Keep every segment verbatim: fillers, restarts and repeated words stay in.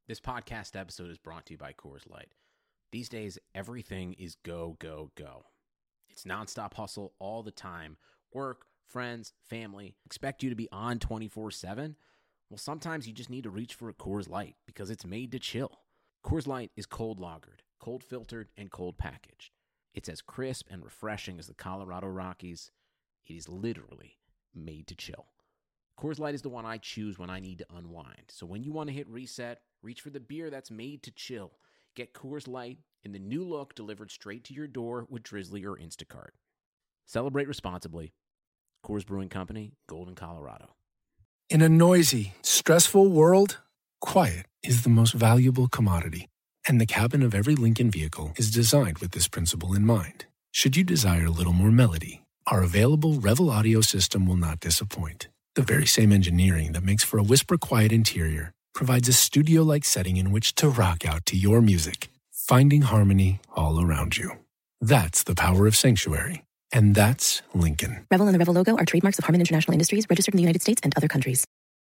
This podcast episode is brought to you by Coors Light. These days, everything is go, go, go. It's nonstop hustle all the time. Work, friends, family, expect you to be on twenty-four seven. Well, sometimes you just need to reach for a Coors Light because it's made to chill. Coors Light is cold lagered, cold filtered, and cold packaged. It's as crisp and refreshing as the Colorado Rockies. It is literally made to chill. Coors Light is the one I choose when I need to unwind. So when you want to hit reset, reach for the beer that's made to chill. Get Coors Light in the new look delivered straight to your door with Drizzly or Instacart. Celebrate responsibly. Coors Brewing Company, Golden, Colorado. In a noisy, stressful world, quiet is the most valuable commodity. And the cabin of every Lincoln vehicle is designed with this principle in mind. Should you desire a little more melody, our available Revel audio system will not disappoint. The very same engineering that makes for a whisper-quiet interior provides a studio-like setting in which to rock out to your music, finding harmony all around you. That's the power of Sanctuary. And that's Lincoln. Revel and the Revel logo are trademarks of Harman International Industries, registered in the United States and other countries.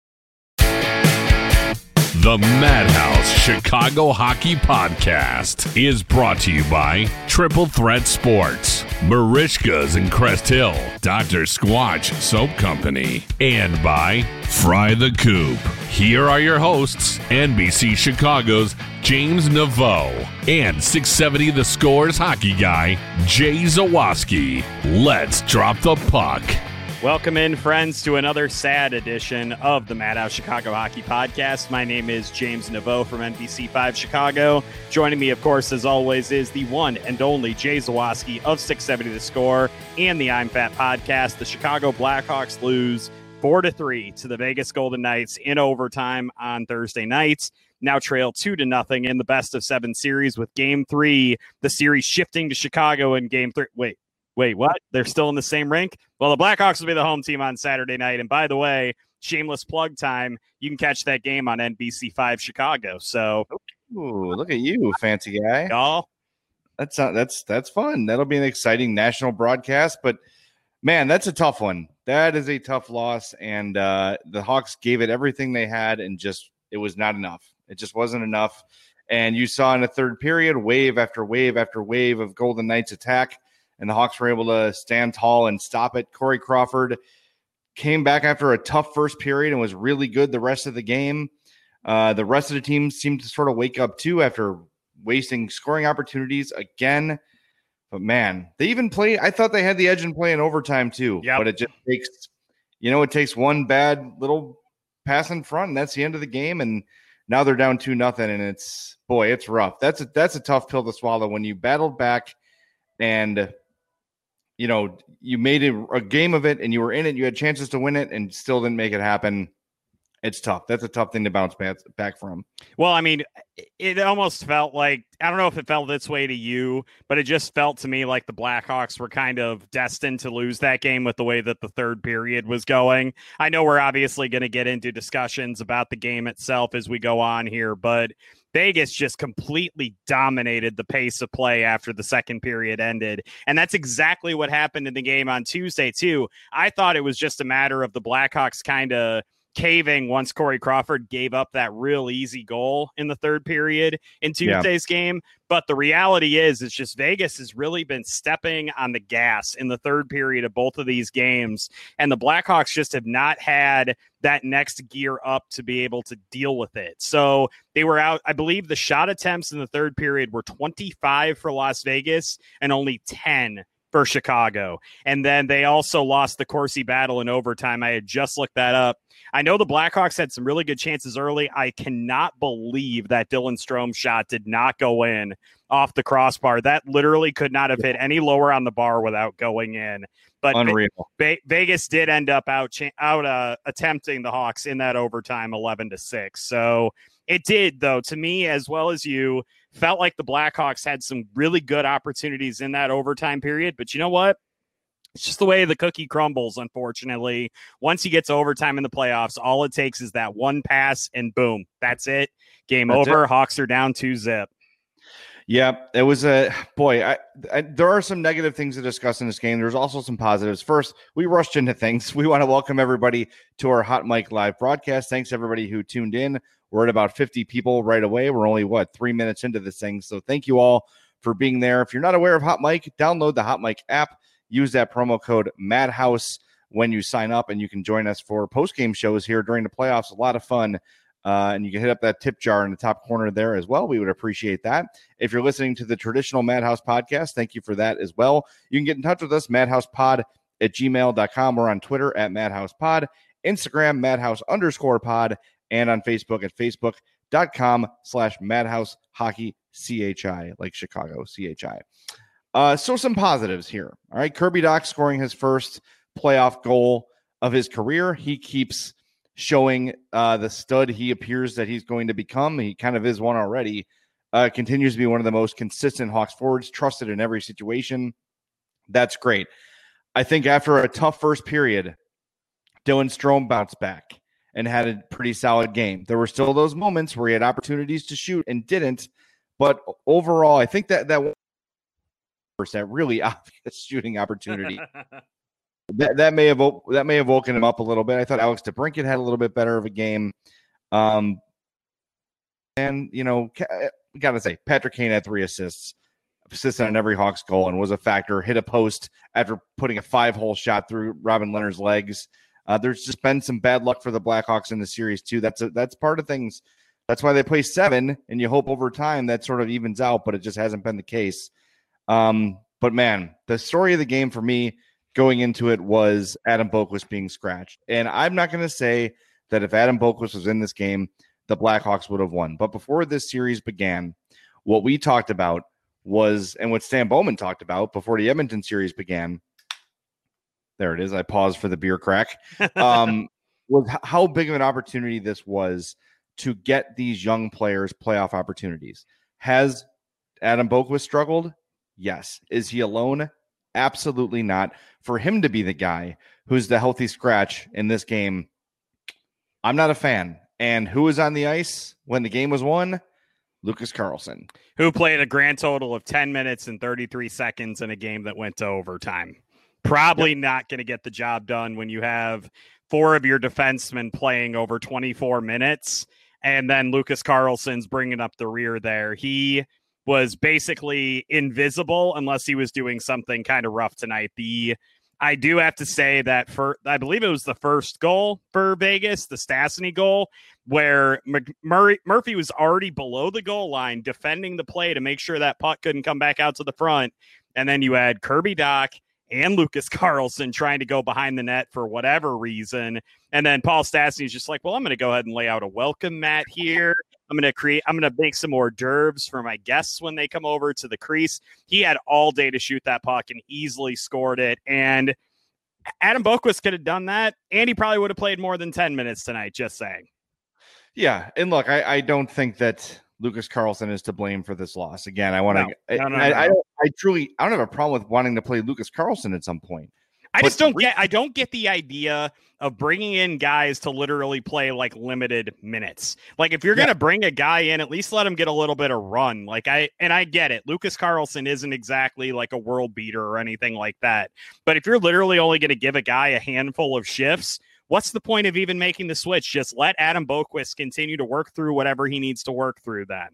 The Madhouse Chicago Hockey Podcast is brought to you by Triple Threat Sports, Marishka's in Crest Hill, Doctor Squatch Soap Company, and by Fry the Coop. Here are your hosts, N B C Chicago's James Naveau and six seventy The Score's hockey guy, Jay Zawaski. Let's drop the puck. Welcome in, friends, to another sad edition of the Madhouse Chicago Hockey Podcast. My name is James Naveau from N B C five Chicago. Joining me, of course, as always, is the one and only Jay Zawaski of six seventy The Score and the I'm Fat Podcast. The Chicago Blackhawks lose four to three to the Vegas Golden Knights in overtime on Thursday night. Now trail two to nothing in the best of seven series, with game three, the series shifting to Chicago in game three. Wait. Wait, what? They're still in the same rink? Well, the Blackhawks will be the home team on Saturday night. And by the way, shameless plug time, you can catch that game on N B C five Chicago. So, ooh, look at you, fancy guy. Y'all. That's not, that's that's fun. That'll be an exciting national broadcast. But, man, that's a tough one. That is a tough loss. And uh, the Hawks gave it everything they had, and just it was not enough. It just wasn't enough. And you saw in the third period, wave after wave after wave of Golden Knights attack. And the Hawks were able to stand tall and stop it. Corey Crawford came back after a tough first period and was really good the rest of the game. Uh, the rest of the team seemed to sort of wake up, too, after wasting scoring opportunities again. But, man, they even played – I thought they had the edge in play in overtime, too. Yep. But it just takes – you know, it takes one bad little pass in front, and that's the end of the game. And now they're down two nothing, and it's – boy, it's rough. That's a, that's a tough pill to swallow when you battled back and – you know, you made a, a game of it and you were in it. You had chances to win it and still didn't make it happen. It's tough. That's a tough thing to bounce back, back from. Well, I mean, it almost felt like, I don't know if it felt this way to you, but it just felt to me like the Blackhawks were kind of destined to lose that game with the way that the third period was going. I know we're obviously going to get into discussions about the game itself as we go on here, but Vegas just completely dominated the pace of play after the second period ended. And that's exactly what happened in the game on Tuesday, too. I thought it was just a matter of the Blackhawks kind of caving once Corey Crawford gave up that real easy goal in the third period in Tuesday's yeah. game. But the reality is, it's just Vegas has really been stepping on the gas in the third period of both of these games. And the Blackhawks just have not had that next gear up to be able to deal with it. So they were out, I believe the shot attempts in the third period were twenty-five for Las Vegas and only ten for Chicago. And then they also lost the Corsi battle in overtime. I had just looked that up. I know the Blackhawks had some really good chances early. I cannot believe that Dylan Strome shot did not go in off the crossbar. That literally could not have hit any lower on the bar without going in. But Unreal. Ve- Vegas did end up out cha- out uh, attempting the Hawks in that overtime, eleven to six. So it did, though, to me as well as you, felt like the Blackhawks had some really good opportunities in that overtime period. But you know what? It's just the way the cookie crumbles, unfortunately. Once you get to overtime in the playoffs, all it takes is that one pass and boom, that's it. Game that's over. It. Hawks are down two zip. Yeah, it was a boy. I, I, there are some negative things to discuss in this game. There's also some positives. First, we rushed into things. We want to welcome everybody to our Hot Mic Live broadcast. Thanks everybody who tuned in, We're at about fifty people right away. We're only, what, three minutes into this thing. So thank you all for being there. If you're not aware of Hot Mic, download the Hot Mic app. Use that promo code Madhouse when you sign up, and you can join us for post-game shows here during the playoffs. A lot of fun. Uh, and you can hit up that tip jar in the top corner there as well. We would appreciate that. If you're listening to the traditional Madhouse podcast, thank you for that as well. You can get in touch with us, madhousepod at gmail dot com. We're on Twitter at madhousepod, Instagram, madhouse underscore pod, and on Facebook at facebook.com slash madhouse hockey chi, like Chicago, C H I. Uh, so some positives here. All right, Kirby Dach scoring his first playoff goal of his career. He keeps showing uh, the stud he appears that he's going to become. He kind of is one already. Uh, continues to be one of the most consistent Hawks forwards, trusted in every situation. That's great. I think after a tough first period, Dylan Strome bounced back and had a pretty solid game. There were still those moments where he had opportunities to shoot and didn't. But overall, I think that that was that really obvious shooting opportunity. That that may have that may have woken him up a little bit. I thought Alex DeBrincat had a little bit better of a game, um, and you know, we gotta say Patrick Kane had three assists, assisted on every Hawks goal, and was a factor. Hit a post after putting a five-hole shot through Robin Leonard's legs. Uh, there's just been some bad luck for the Blackhawks in the series too. That's a, that's part of things. That's why they play seven, and you hope over time that sort of evens out, but it just hasn't been the case. Um, but man, the story of the game for me going into it was Adam Boqvist being scratched. And I'm not going to say that if Adam Boqvist was in this game, the Blackhawks would have won. But before this series began, what we talked about was, and what Stan Bowman talked about before the Edmonton series began, there it is, I paused for the beer crack, um, was how big of an opportunity this was to get these young players playoff opportunities. Has Adam Boqvist struggled? Yes. Is he alone? Absolutely not. For him to be the guy who's the healthy scratch in this game, I'm not a fan. And who was on the ice when the game was won? Lucas Carlsson. Who played a grand total of ten minutes and thirty-three seconds in a game that went to overtime. Probably yep. Not going to get the job done when you have four of your defensemen playing over twenty-four minutes. And then Lucas Carlsson's bringing up the rear there. He was basically invisible unless he was doing something kind of rough tonight. The I do have to say that for I believe it was the first goal for Vegas, the Stastny goal, where Murray, Murphy was already below the goal line defending the play to make sure that puck couldn't come back out to the front. And then you had Kirby Dach and Lucas Carlsson trying to go behind the net for whatever reason. And then Paul Stastny is just like, well, I'm going to go ahead and lay out a welcome mat here. I'm going to create, I'm going to make some hors d'oeuvres for my guests when they come over to the crease. He had all day to shoot that puck and easily scored it. And Adam Boqvist could have done that. And he probably would have played more than ten minutes tonight, just saying. Yeah. And look, I, I don't think that Lucas Carlsson is to blame for this loss. Again, I want to, no, no, no, I, no. I, don't, I truly, I don't have a problem with wanting to play Lucas Carlsson at some point. I but just don't get, I don't get the idea of bringing in guys to literally play like limited minutes. Like if you're yeah. going to bring a guy in, at least let him get a little bit of run. Like I, and I get it. Lucas Carlsson isn't exactly like a world beater or anything like that. But if you're literally only going to give a guy a handful of shifts, what's the point of even making the switch? Just let Adam Boqvist continue to work through whatever he needs to work through then.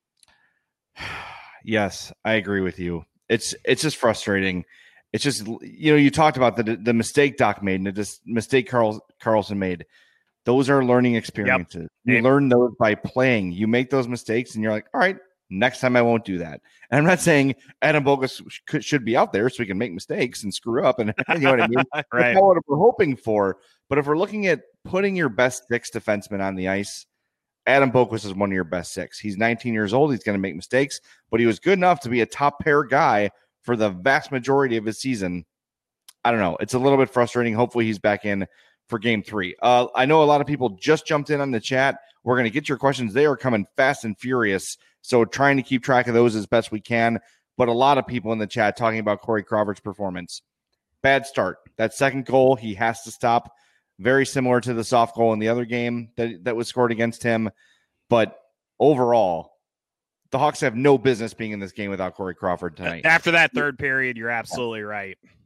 Yes, I agree with you. It's it's just frustrating. It's just, you know, you talked about the the mistake Doc made and the dis- mistake Carl, Carlsson made. Those are learning experiences. Yep. You yep. learn those by playing. You make those mistakes and you're like, all right, next time I won't do that. And I'm not saying Adam Boqvist sh- should be out there so we can make mistakes and screw up. And you know what I mean? Right. That's not what we're hoping for. But if we're looking at putting your best six defenseman on the ice, Adam Boqvist is one of your best six. He's nineteen years old. He's going to make mistakes, but he was good enough to be a top pair guy for the vast majority of his season. I don't know. It's a little bit frustrating. Hopefully he's back in for game three. Uh, I know a lot of people just jumped in on the chat. We're going to get your questions. They are coming fast and furious. So trying to keep track of those as best we can. But a lot of people in the chat talking about Corey Crawford's performance. Bad start. That second goal, he has to stop. Very similar to the soft goal in the other game that, that was scored against him. But overall, the Hawks have no business being in this game without Corey Crawford tonight. After that third period, you're absolutely right.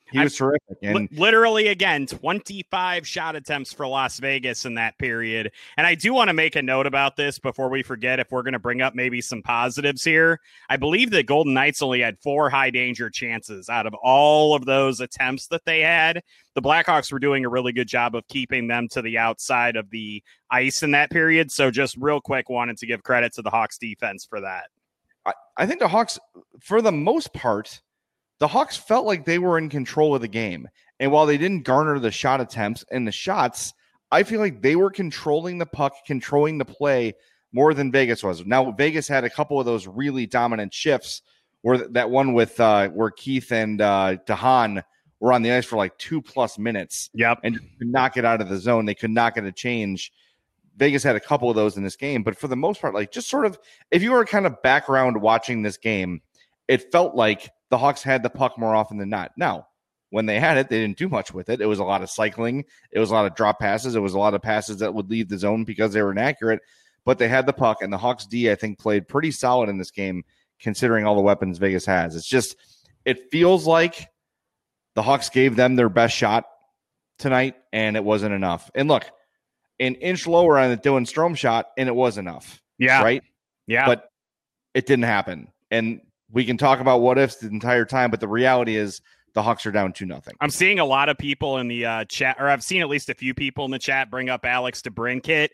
He was I, terrific. And li- literally, again, twenty-five shot attempts for Las Vegas in that period. And I do want to make a note about this before we forget, if we're going to bring up maybe some positives here. I believe that Golden Knights only had four high danger chances out of all of those attempts that they had. The Blackhawks were doing a really good job of keeping them to the outside of the ice in that period. So just real quick, wanted to give credit to the Hawks defense for that. I, I think the Hawks, for the most part, the Hawks felt like they were in control of the game. And while they didn't garner the shot attempts and the shots, I feel like they were controlling the puck, controlling the play more than Vegas was. Now, Vegas had a couple of those really dominant shifts, where that one with uh, where Keith and uh, DeHaan were on the ice for like two plus minutes. Yep. And could not get out of the zone. They could not get a change. Vegas had a couple of those in this game. But for the most part, like just sort of, if you were kind of background watching this game, it felt like the Hawks had the puck more often than not. Now, when they had it, they didn't do much with it. It was a lot of cycling. It was a lot of drop passes. It was a lot of passes that would leave the zone because they were inaccurate. But they had the puck, and the Hawks D, I think, played pretty solid in this game, considering all the weapons Vegas has. It's just, it feels like the Hawks gave them their best shot tonight, and it wasn't enough. And look, an inch lower on the Dylan Strome shot, and it was enough. Yeah. Right? Yeah. But it didn't happen. And we can talk about what ifs the entire time, but the reality is the Hawks are down two nothing. I'm seeing a lot of people in the uh, chat, or I've seen at least a few people in the chat bring up Alex DeBrincat.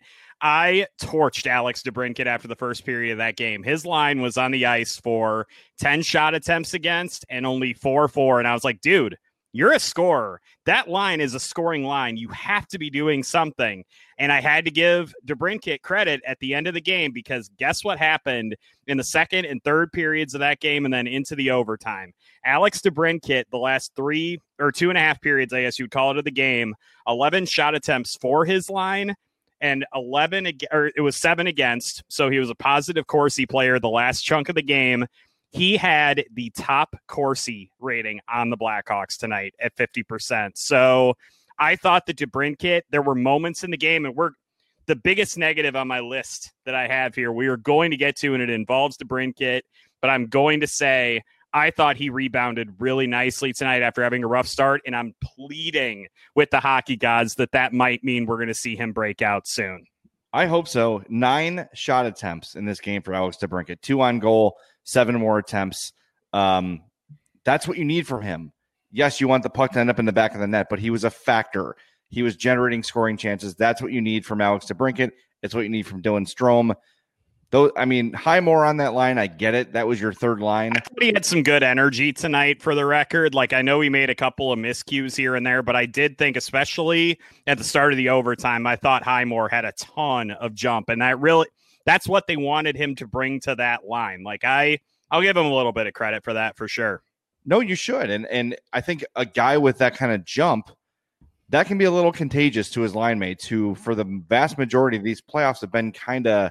I torched Alex DeBrincat after the first period of that game. His line was on the ice for ten shot attempts against and only four four. And I was like, dude, you're a scorer. That line is a scoring line. You have to be doing something. And I had to give DeBrincat credit at the end of the game, because guess what happened in the second and third periods of that game and then into the overtime? Alex DeBrincat, the last three or two and a half periods, I guess you'd call it, of the game, eleven shot attempts for his line and eleven, or it was seven against. So he was a positive Corsi player the last chunk of the game. He had the top Corsi rating on the Blackhawks tonight at fifty percent. So I thought that DeBrincat, there were moments in the game, and we're the biggest negative on my list that I have here, we are going to get to, and it involves DeBrincat, but I'm going to say I thought he rebounded really nicely tonight after having a rough start, and I'm pleading with the hockey gods that that might mean we're going to see him break out soon. I hope so. Nine shot attempts in this game for Alex DeBrincat, two on goal, seven more attempts. Um, that's what you need from him. Yes, you want the puck to end up in the back of the net, but he was a factor. He was generating scoring chances. That's what you need from Alex DeBrincat. It's what you need from Dylan Strome. Though, I mean, Highmore on that line, I get it. That was your third line. I thought he had some good energy tonight, for the record. Like, I know he made a couple of miscues here and there, but I did think, especially at the start of the overtime, I thought Highmore had a ton of jump, and that really, that's what they wanted him to bring to that line. Like, I, I'll give him a little bit of credit for that, for sure. No, you should. And and I think a guy with that kind of jump, that can be a little contagious to his line mates, who for the vast majority of these playoffs have been kind of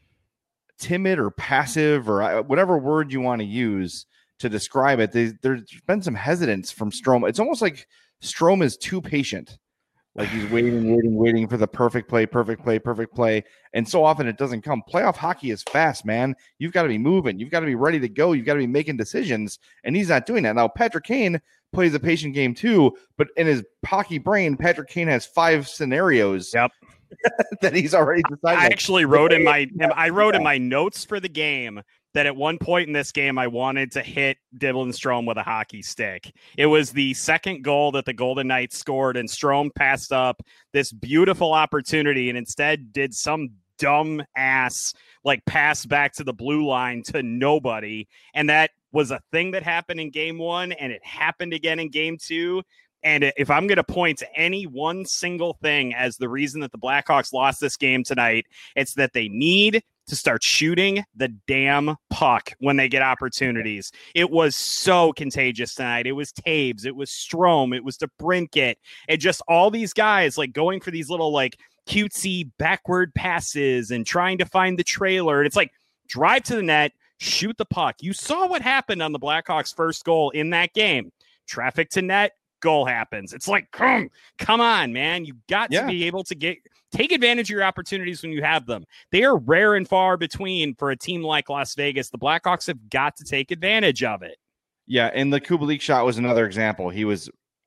timid or passive, or whatever word you want to use to describe it. They, there's been some hesitance from Strome. It's almost like Strome is too patient. Like he's waiting, waiting, waiting for the perfect play, perfect play, perfect play. And so often it doesn't come. Playoff hockey is fast, man. You've got to be moving. You've got to be ready to go. You've got to be making decisions. And he's not doing that. Now, Patrick Kane plays a patient game too, but in his hockey brain, Patrick Kane has five scenarios yep. that he's already decided. I actually wrote in my I wrote in my notes for the game that at one point in this game, I wanted to hit Dylan Strome with a hockey stick. It was the second goal that the Golden Knights scored, and Strome passed up this beautiful opportunity and instead did some dumb ass like pass back to the blue line to nobody. And that was a thing that happened in game one, and it happened again in game two. And if I'm going to point to any one single thing as the reason that the Blackhawks lost this game tonight, it's that they need to start shooting the damn puck when they get opportunities. It was so contagious tonight. It was Taves. It was Strome. It was DeBrincat. And just all these guys like going for these little like cutesy backward passes and trying to find the trailer. And it's like, drive to the net, shoot the puck. You saw what happened on the Blackhawks' first goal in that game. Traffic to net, goal happens. It's like, come, come on, man. You got yeah. to be able to get take advantage of your opportunities when you have them. They are rare and far between for a team like Las Vegas. The Blackhawks have got to take advantage of it. Yeah, and the Kubalik shot was another example. He was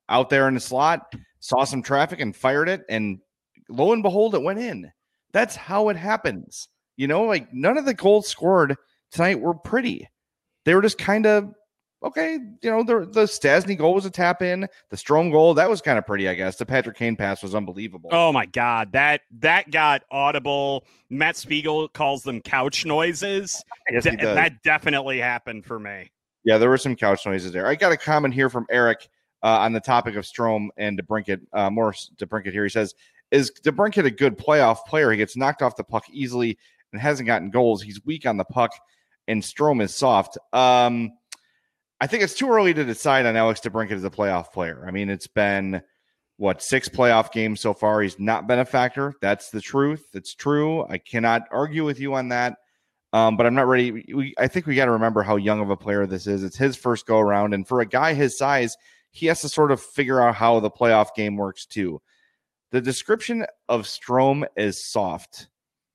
out there in the slot, saw some traffic and fired it, and lo and behold, it went in. That's how it happens. You know, like none of the goals scored tonight were pretty. They were just kind of, okay, you know, the, the Stasny goal was a tap in. The Strome goal, that was kind of pretty, I guess. The Patrick Kane pass was unbelievable. Oh, my God. That that got audible. Matt Spiegel calls them couch noises. Yes, De- that definitely happened for me. Yeah, there were some couch noises there. I got a comment here from Eric uh, on the topic of Strome and DeBrincat. Uh, more DeBrincat here. He says, is DeBrincat a good playoff player? He gets knocked off the puck easily and hasn't gotten goals. He's weak on the puck, and Strome is soft. Um, I think it's too early to decide on Alex DeBrincat as a playoff player. I mean, it's been, what, six playoff games so far. He's not been a factor. That's the truth. It's true. I cannot argue with you on that. Um, but I'm not ready. We, I think we got to remember how young of a player this is. It's his first go around. And for a guy his size, he has to sort of figure out how the playoff game works too. The description of Strome is soft.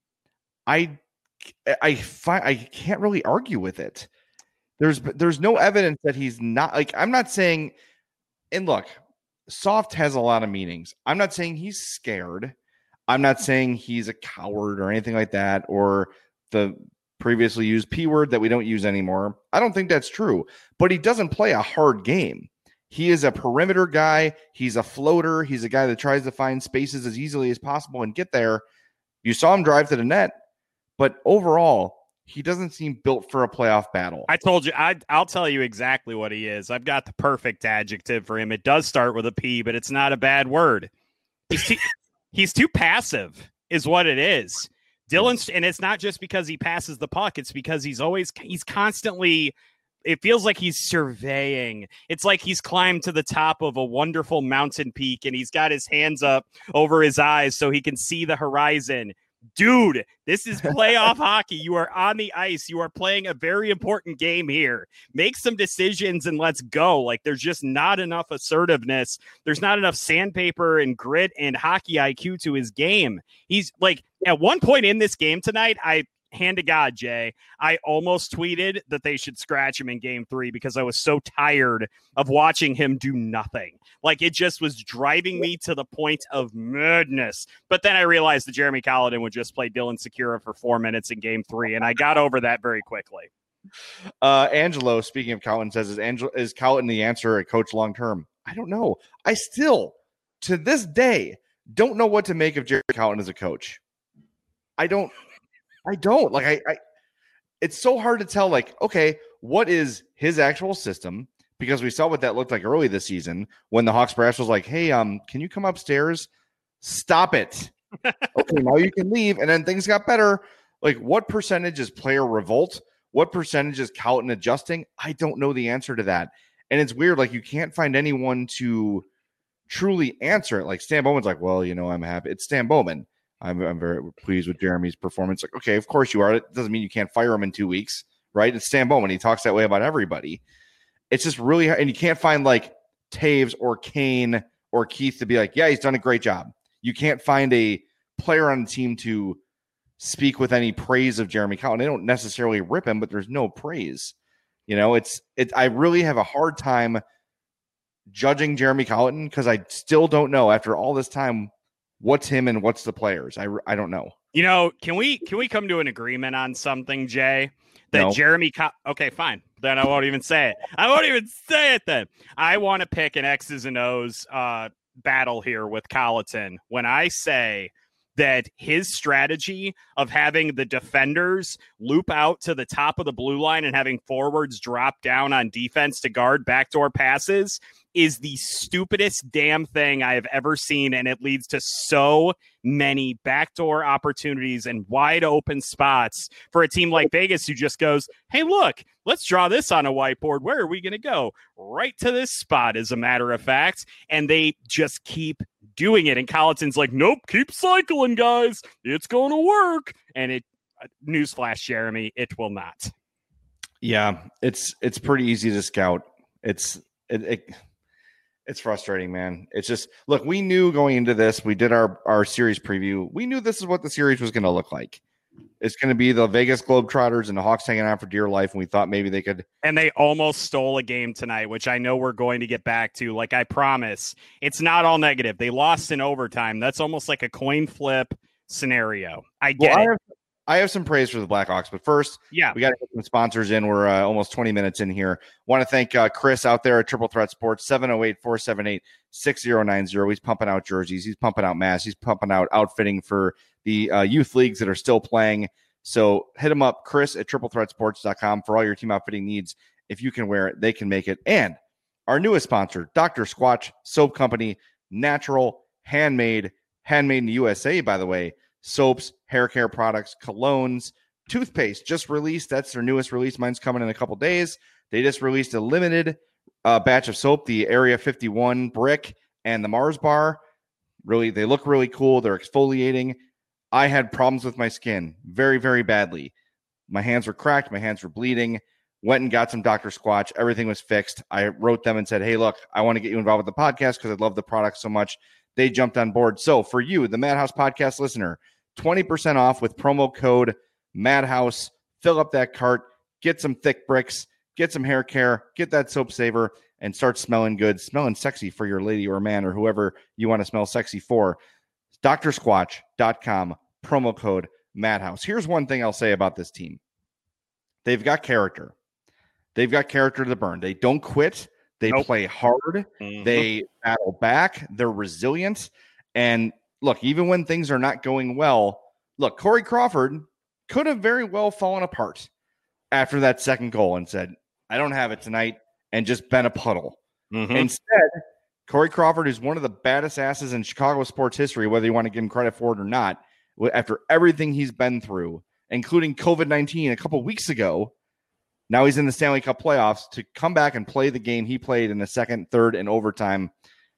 I, I find I can't really argue with it. There's, there's no evidence that he's not, like, I'm not saying, and look, soft has a lot of meanings. I'm not saying he's scared. I'm not saying he's a coward or anything like that, or the previously used P word that we don't use anymore. I don't think that's true, but he doesn't play a hard game. He is a perimeter guy. He's a floater. He's a guy that tries to find spaces as easily as possible and get there. You saw him drive to the net, but overall, he doesn't seem built for a playoff battle. I told you, I, I'll tell you exactly what he is. I've got the perfect adjective for him. It does start with a P, but it's not a bad word. He's too, he's too passive is what it is. Dylan, and it's not just because he passes the puck. It's because he's always, he's constantly, it feels like he's surveying. It's like he's climbed to the top of a wonderful mountain peak and he's got his hands up over his eyes so he can see the horizon. Dude, this is playoff hockey. You are on the ice. You are playing a very important game here. Make some decisions and let's go. Like, there's just not enough assertiveness. There's not enough sandpaper and grit and hockey I Q to his game. He's like, at one point in this game tonight, I hand to God, Jay, I almost tweeted that they should scratch him in game three because I was so tired of watching him do nothing. Like, it just was driving me to the point of madness. But then I realized that Jeremy Colliton would just play Dylan Secura for four minutes in game three, and I got over that very quickly. Uh, Angelo, speaking of Colliton, says, is, Angelo, is Colliton the answer at coach long-term? I don't know. I still, to this day, don't know what to make of Jeremy Colliton as a coach. I don't. I don't like I, I it's so hard to tell, like, okay, what is his actual system? Because we saw what that looked like early this season when the Hawks brass was like, hey, um, can you come upstairs? Stop it. Okay, now you can leave. And then things got better. Like, what percentage is player revolt? What percentage is Colliton adjusting? I don't know the answer to that. And it's weird, like, you can't find anyone to truly answer it. Like, Stan Bowman's like, well, you know, I'm happy. It's Stan Bowman. I'm, I'm very pleased with Jeremy's performance. Like, okay, of course you are. It doesn't mean you can't fire him in two weeks, right? It's Stan Bowman. He talks that way about everybody. It's just really, and you can't find like Taves or Kane or Keith to be like, yeah, he's done a great job. You can't find a player on the team to speak with any praise of Jeremy Colliton. They don't necessarily rip him, but there's no praise. You know, it's, it, I really have a hard time judging Jeremy Colliton because I still don't know after all this time what's him and what's the players. I, I don't know. You know, can we can we come to an agreement on something, Jay? That No. Jeremy Co- okay, fine. Then I won't even say it. I won't even say it then. I want to pick an X's and O's uh, battle here with Colliton when I say that his strategy of having the defenders loop out to the top of the blue line and having forwards drop down on defense to guard backdoor passes is the stupidest damn thing I have ever seen. And it leads to so many backdoor opportunities and wide open spots for a team like Vegas who just goes, hey, look, let's draw this on a whiteboard. Where are we going to go? Right to this spot, as a matter of fact. And they just keep doing it. And Colliton's like, nope, keep cycling, guys. It's going to work. And it, newsflash, Jeremy, it will not. Yeah, it's it's pretty easy to scout. It's it, it it's frustrating, man. It's just, look, we knew going into this, we did our our series preview. We knew this is what the series was going to look like. It's going to be the Vegas Globetrotters and the Hawks hanging out for dear life, and we thought maybe they could. And they almost stole a game tonight, which I know we're going to get back to. Like I promise, it's not all negative. They lost in overtime. That's almost like a coin flip scenario. I get well, it. I have, I have some praise for the Blackhawks, but first, yeah, we got to get some sponsors in. We're uh, almost twenty minutes in here. Want to thank uh, Chris out there at Triple Threat Sports, seven oh eight, four seven eight, six oh nine oh. He's pumping out jerseys. He's pumping out masks. He's pumping out outfitting for the uh, youth leagues that are still playing. So hit him up, Chris at triple threat sports dot com for all your team outfitting needs. If you can wear it, they can make it. And our newest sponsor, Doctor Squatch Soap Company, natural, handmade, handmade in the U S A, by the way. Soaps, hair care products, colognes, toothpaste just released. That's their newest release. Mine's coming in a couple days. They just released a limited uh, batch of soap, the Area fifty-one Brick and the Mars Bar. Really, they look really cool. They're exfoliating. I had problems with my skin very, very badly. My hands were cracked. My hands were bleeding. Went and got some Doctor Squatch. Everything was fixed. I wrote them and said, hey, look, I want to get you involved with the podcast because I love the product so much. They jumped on board. So for you, the Madhouse podcast listener, twenty percent off with promo code Madhouse. Fill up that cart. Get some thick bricks. Get some hair care. Get that soap saver and start smelling good, smelling sexy for your lady or man or whoever you want to smell sexy for. doctor squatch dot com, promo code Madhouse. Here's one thing I'll say about this team. They've got character. They've got character to burn. They don't quit. They nope. play hard. Mm-hmm. They battle back. They're resilient. And look, even when things are not going well, look, Corey Crawford could have very well fallen apart after that second goal and said, I don't have it tonight, and just been a puddle. Mm-hmm. Instead, Corey Crawford is one of the baddest asses in Chicago sports history, whether you want to give him credit for it or not, after everything he's been through, including covid nineteen a couple weeks ago. Now he's in the Stanley Cup playoffs to come back and play the game he played in the second, third, and overtime.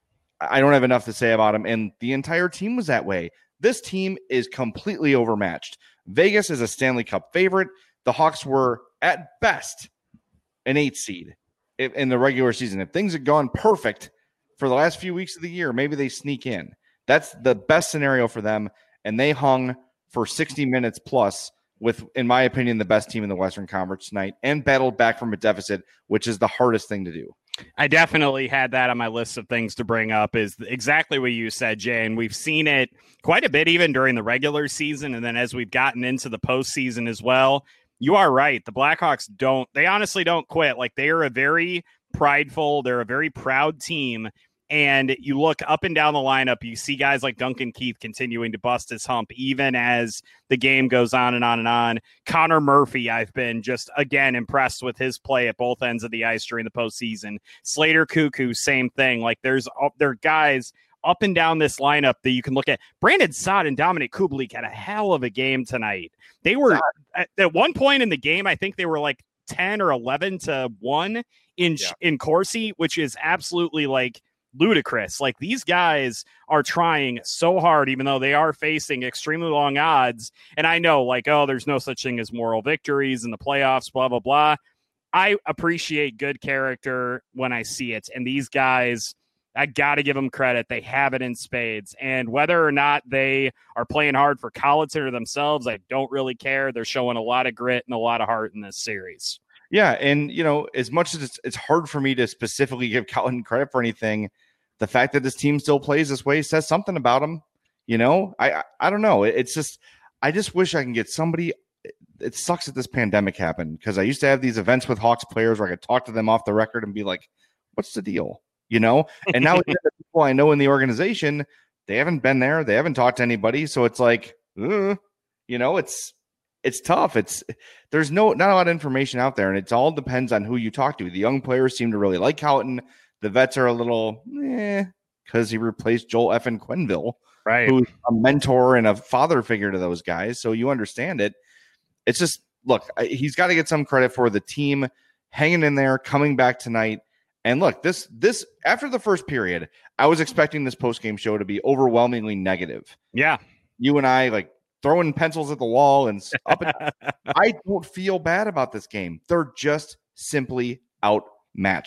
I don't have enough to say about him, and the entire team was that way. This team is completely overmatched. Vegas is a Stanley Cup favorite. The Hawks were, at best, an eight seed in the regular season. If things had gone perfect for the last few weeks of the year, maybe they sneak in. That's the best scenario for them, and they hung for sixty minutes plus with, in my opinion, the best team in the Western Conference tonight and battled back from a deficit, which is the hardest thing to do. I definitely had that on my list of things to bring up, is exactly what you said, Jay. And we've seen it quite a bit even during the regular season. And then as we've gotten into the postseason as well, you are right. The Blackhawks don't, they honestly don't quit. Like, they are a very prideful, they're a very proud team. And you look up and down the lineup, you see guys like Duncan Keith continuing to bust his hump, even as the game goes on and on and on. Connor Murphy, I've been just, again, impressed with his play at both ends of the ice during the postseason. Slater Cuckoo, same thing. Like, there's there are guys up and down this lineup that you can look at. Brandon Saad and Dominic Kubalik had a hell of a game tonight. They were, at, at one point in the game, I think they were like ten or eleven to one in, yeah. in Corsi, which is absolutely like, ludicrous. Like, these guys are trying so hard, even though they are facing extremely long odds. And I know, like, oh, there's no such thing as moral victories in the playoffs, blah, blah, blah. I appreciate good character when I see it. And these guys, I got to give them credit. They have it in spades. And whether or not they are playing hard for Colliton or themselves, I don't really care. They're showing a lot of grit and a lot of heart in this series. Yeah, and, you know, as much as it's, it's hard for me to specifically give Colliton credit for anything, the fact that this team still plays this way says something about him. You know, I I, I don't know. It, it's just, I just wish I can get somebody. It, it sucks that this pandemic happened, because I used to have these events with Hawks players where I could talk to them off the record and be like, what's the deal? You know, and now the people I know in the organization, they haven't been there. They haven't talked to anybody. So it's like, uh, you know, it's, It's tough. It's there's no not a lot of information out there, and it all depends on who you talk to. The young players seem to really like Houghton. The vets are a little eh, because he replaced Joel Effin Quenneville, right? Who's a mentor and a father figure to those guys. So you understand it. It's just, look, he's got to get some credit for the team hanging in there, coming back tonight. And look, this this after the first period, I was expecting this post-game show to be overwhelmingly negative. Yeah, you and I like. Throwing pencils at the wall and up. And I don't feel bad about this game. They're just simply outmatched.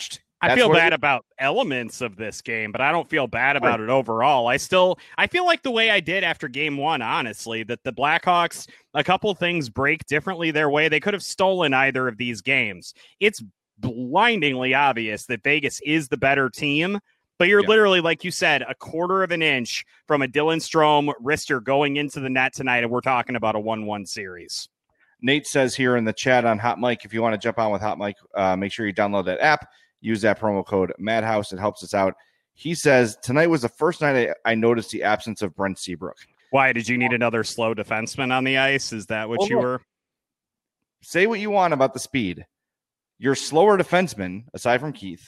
I That's feel what it bad is. about elements of this game, but I don't feel bad about it overall. I still, I feel like the way I did after game one, honestly, that the Blackhawks, a couple things break differently their way. They could have stolen either of these games. It's blindingly obvious that Vegas is the better team, but you're Yeah. literally, like you said, a quarter of an inch from a Dylan Strome wrister going into the net tonight, and we're talking about a one one series. Nate says here in the chat on Hot Mic, if you want to jump on with Hot Mic, uh, make sure you download that app. Use that promo code Madhouse. It helps us out. He says, tonight was the first night I, I noticed the absence of Brent Seabrook. Why, did you need another slow defenseman on the ice? Is that what Well, you look, were? Say what you want about the speed. Your slower defenseman, aside from Keith,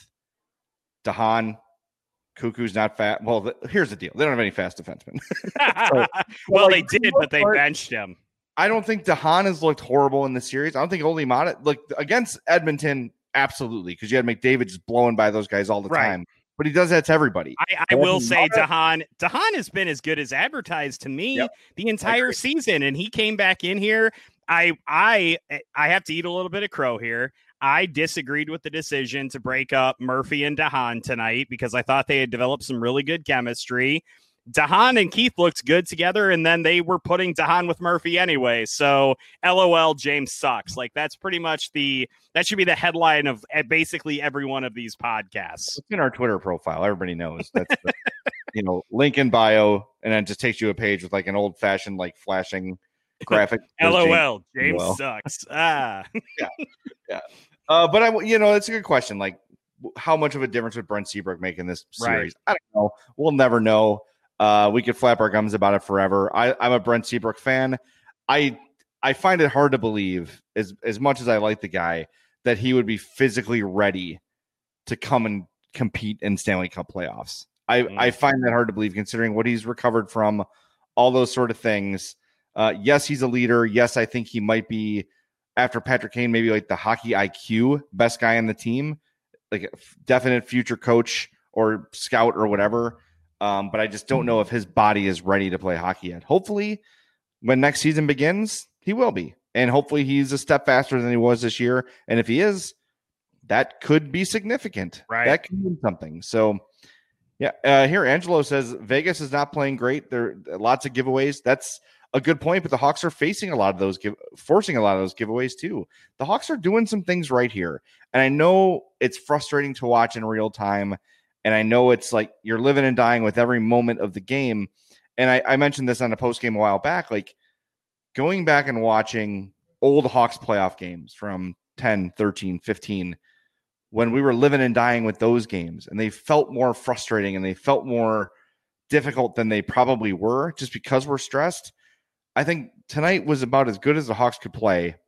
Dahan, Cuckoo's not fast. Well, the, here's the deal. They don't have any fast defensemen. so, well, like, they did, but they part, benched him. I don't think Dahan has looked horrible in this series. I don't think Oli Mata, like against Edmonton, absolutely, because you had McDavid just blowing by those guys all the Right. time. But he does that to everybody. I, I will say Dahan Dahan has been as good as advertised to me Yep. the entire season, and he came back in here. I I I have to eat a little bit of crow here. I disagreed with the decision to break up Murphy and Dahan tonight because I thought they had developed some really good chemistry. Dahan and Keith looked good together, and then they were putting Dahan with Murphy anyway. So, LOL, James sucks. Like, that's pretty much the that should be the headline of basically every one of these podcasts. It's in our Twitter profile. Everybody knows that's the, you know, link in bio, and then it just takes you a page with like an old fashioned like flashing graphic. LOL, James, James sucks. Ah, yeah, yeah. Uh, but I, you know, it's a good question. Like, how much of a difference would Brent Seabrook make in this series? Right. I don't know. We'll never know. Uh, we could flap our gums about it forever. I, I'm a Brent Seabrook fan. I I find it hard to believe, as as much as I like the guy, that he would be physically ready to come and compete in Stanley Cup playoffs. I, Mm. I find that hard to believe, considering what he's recovered from, all those sort of things. Uh, yes, he's a leader. Yes, I think he might be, after Patrick Kane, maybe like the hockey I Q best guy on the team, like a f- definite future coach or scout or whatever. Um, but I just don't know if his body is ready to play hockey yet. Hopefully, when next season begins, he will be. And hopefully he's a step faster than he was this year. And if he is, that could be significant. Right. That could mean something. So, yeah. Uh, here, Angelo says Vegas is not playing great. There are lots of giveaways. That's a good point, but the Hawks are facing a lot of those, give, forcing a lot of those giveaways too. The Hawks are doing some things right here. And I know it's frustrating to watch in real time. And I know it's like you're living and dying with every moment of the game. And I, I mentioned this on a post game a while back, like going back and watching old Hawks playoff games from ten, thirteen, fifteen, when we were living and dying with those games, and they felt more frustrating and they felt more difficult than they probably were just because we're stressed. I think tonight was about as good as the Hawks could play.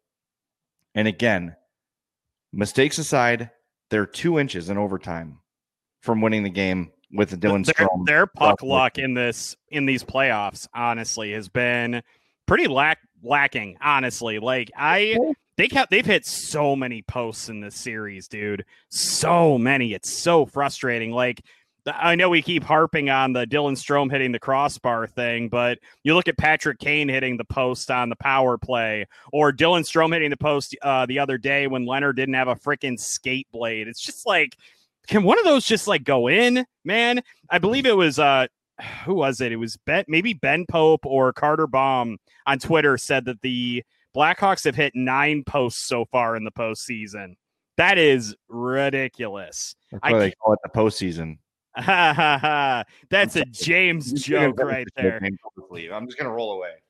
And again, mistakes aside, they're two inches in overtime from winning the game with the Dylan their, Strome. their puck luck in this in these playoffs, honestly, has been pretty lack lacking. Honestly, like I, they kept they've hit so many posts in this series, dude. So many. It's so frustrating. Like, I know we keep harping on the Dylan Strome hitting the crossbar thing, but you look at Patrick Kane hitting the post on the power play, or Dylan Strome hitting the post uh, the other day when Leonard didn't have a freaking skate blade. It's just like, can one of those just like go in, man? I believe it was uh, who was it? It was Ben, maybe Ben Pope or Carter Baum on Twitter said that the Blackhawks have hit nine posts so far in the postseason. That is ridiculous. That's I why they can't- call it the postseason. Ha ha ha! That's a James Just joke gonna- right there. I'm just gonna roll away.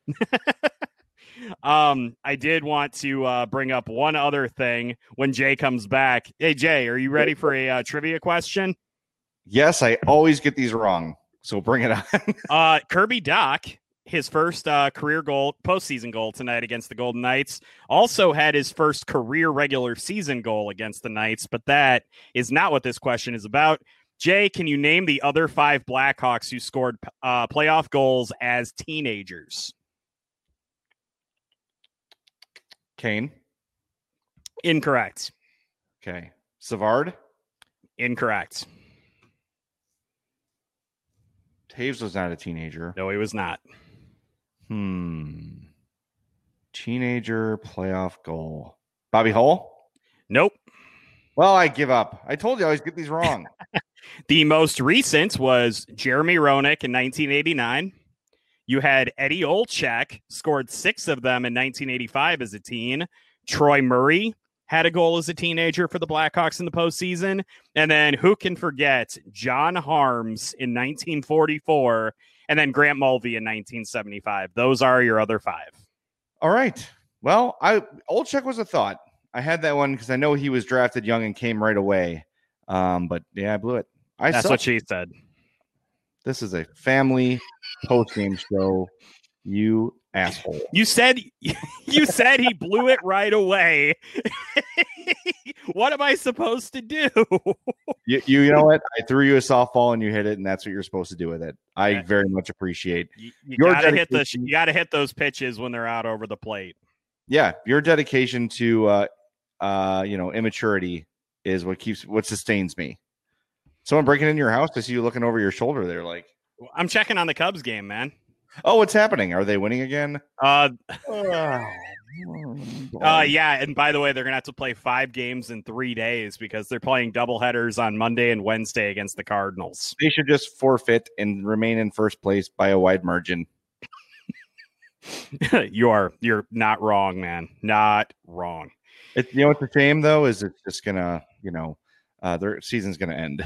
um, I did want to uh, bring up one other thing when Jay comes back. Hey Jay, are you ready for a uh, trivia question? Yes, I always get these wrong, so bring it on. uh, Kirby Dach, his first uh, career goal, postseason goal tonight against the Golden Knights, also had his first career regular season goal against the Knights, but that is not what this question is about. Jay, can you name the other five Blackhawks who scored uh, playoff goals as teenagers? Kane. Incorrect. Okay. Savard. Incorrect. Taves was not a teenager. No, he was not. Hmm. Teenager playoff goal. Bobby Hull. Nope. Well, I give up. I told you I always get these wrong. The most recent was Jeremy Roenick in nineteen eighty-nine. You had Eddie Olczyk, scored six of them in nineteen eighty-five as a teen. Troy Murray had a goal as a teenager for the Blackhawks in the postseason. And then who can forget John Harms in nineteen forty-four, and then Grant Mulvey in nineteen seventy-five. Those are your other five. All right. Well, I Olczyk was a thought. I had that one because I know he was drafted young and came right away. Um, but yeah, I blew it. I That's suck. what she said. This is a family post-game show. You asshole. You said you said he blew it right away. What am I supposed to do? you, you you know what? I threw you a softball and you hit it, and that's what you're supposed to do with it. I yeah. very much appreciate. You, you gotta hit the you gotta hit those pitches when they're out over the plate. Yeah, your dedication to uh, uh, you know, immaturity is what keeps what sustains me. Someone breaking into your house, to see you looking over your shoulder there, like I'm checking on the Cubs game, man. Oh, what's happening? Are they winning again? Uh, uh, yeah. And by the way, they're going to have to play five games in three days because they're playing doubleheaders on Monday and Wednesday against the Cardinals. They should just forfeit and remain in first place by a wide margin. you are, you're not wrong, man. Not wrong. It, you know, what's a shame though, is it's just going to, you know, uh, their season's going to end.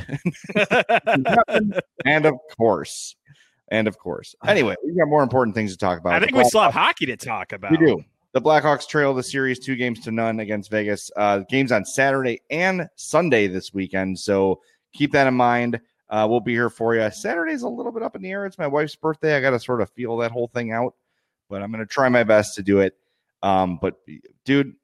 And of course, And of course, anyway, we've got more important things to talk about. I think we still have hockey to talk about. We do. The Blackhawks trail the series two games to none against Vegas. Uh, games on Saturday and Sunday this weekend. So keep that in mind. Uh, we'll be here for you. Saturday's a little bit up in the air. It's my wife's birthday. I got to sort of feel that whole thing out, but I'm going to try my best to do it. Um, but dude,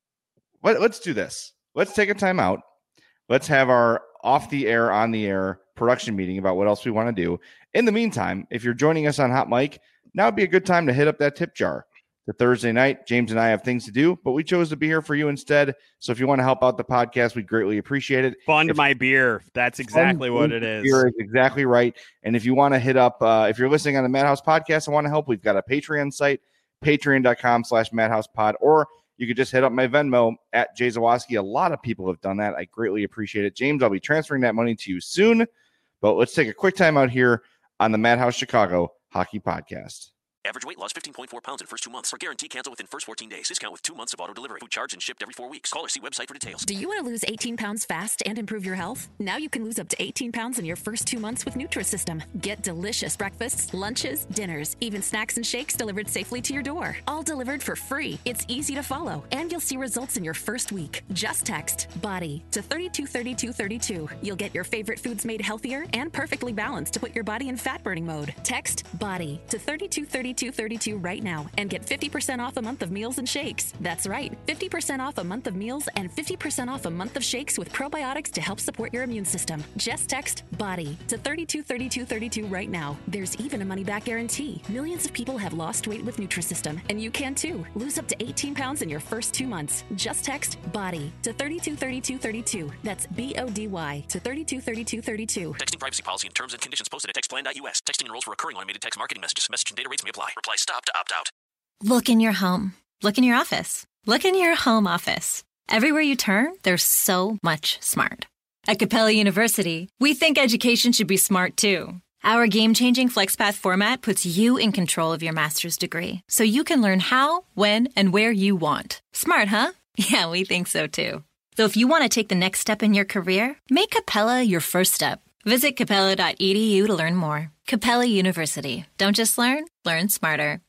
let, let's do this. Let's take a time out. Let's have our off the air, on the air production meeting about what else we want to do. In the meantime, if you're joining us on Hot Mic, now would be a good time to hit up that tip jar. The Thursday night, James and I have things to do, but we chose to be here for you instead. So if you want to help out the podcast, we greatly appreciate it. Fund if, my beer. That's exactly what it is. Beer is exactly right. And if you want to hit up, uh, if you're listening on the Madhouse podcast and want to help, we've got a Patreon site, patreon.com slash madhousepod, or you could just hit up my Venmo at Jay Zawoski. A lot of people have done that. I greatly appreciate it. James, I'll be transferring that money to you soon, but let's take a quick time out here on the Madhouse Chicago Hockey Podcast. Average weight loss fifteen point four pounds in first two months. For guarantee cancel within first fourteen days. Discount with two months of auto delivery. Food charged and shipped every four weeks. Call or see website for details. Do you want to lose eighteen pounds fast and improve your health? Now you can lose up to eighteen pounds in your first two months with Nutrisystem. Get delicious breakfasts, lunches, dinners, even snacks and shakes delivered safely to your door. All delivered for free. It's easy to follow, and you'll see results in your first week. Just text BODY to thirty-two thirty-two thirty-two. You'll get your favorite foods made healthier and perfectly balanced to put your body in fat burning mode. Text BODY to thirty-two thirty-two thirty-two right now and get fifty percent off a month of meals and shakes. That's right, fifty percent off a month of meals and fifty percent off a month of shakes with probiotics to help support your immune system. Just text BODY to thirty-two thirty-two thirty-two right now. There's even a money-back guarantee. Millions of people have lost weight with Nutrisystem, and you can too. Lose up to eighteen pounds in your first two months. Just text BODY to thirty-two thirty-two thirty-two. That's B O D Y to thirty-two thirty-two thirty-two. Texting privacy policy and terms and conditions posted at textplan dot U S. Texting enrolls for recurring automated text marketing messages. Message and data rates may apply. Reply stop to opt out. Look in your home. Look in your office. Look in your home office. Everywhere you turn, there's so much smart. At Capella University, we think education should be smart too. Our game-changing FlexPath format puts you in control of your master's degree, so you can learn how, when, and where you want. Smart, huh? Yeah, we think so too. So if you want to take the next step in your career, make Capella your first step. Visit capella dot e d u to learn more. Capella University. Don't just learn, learn smarter.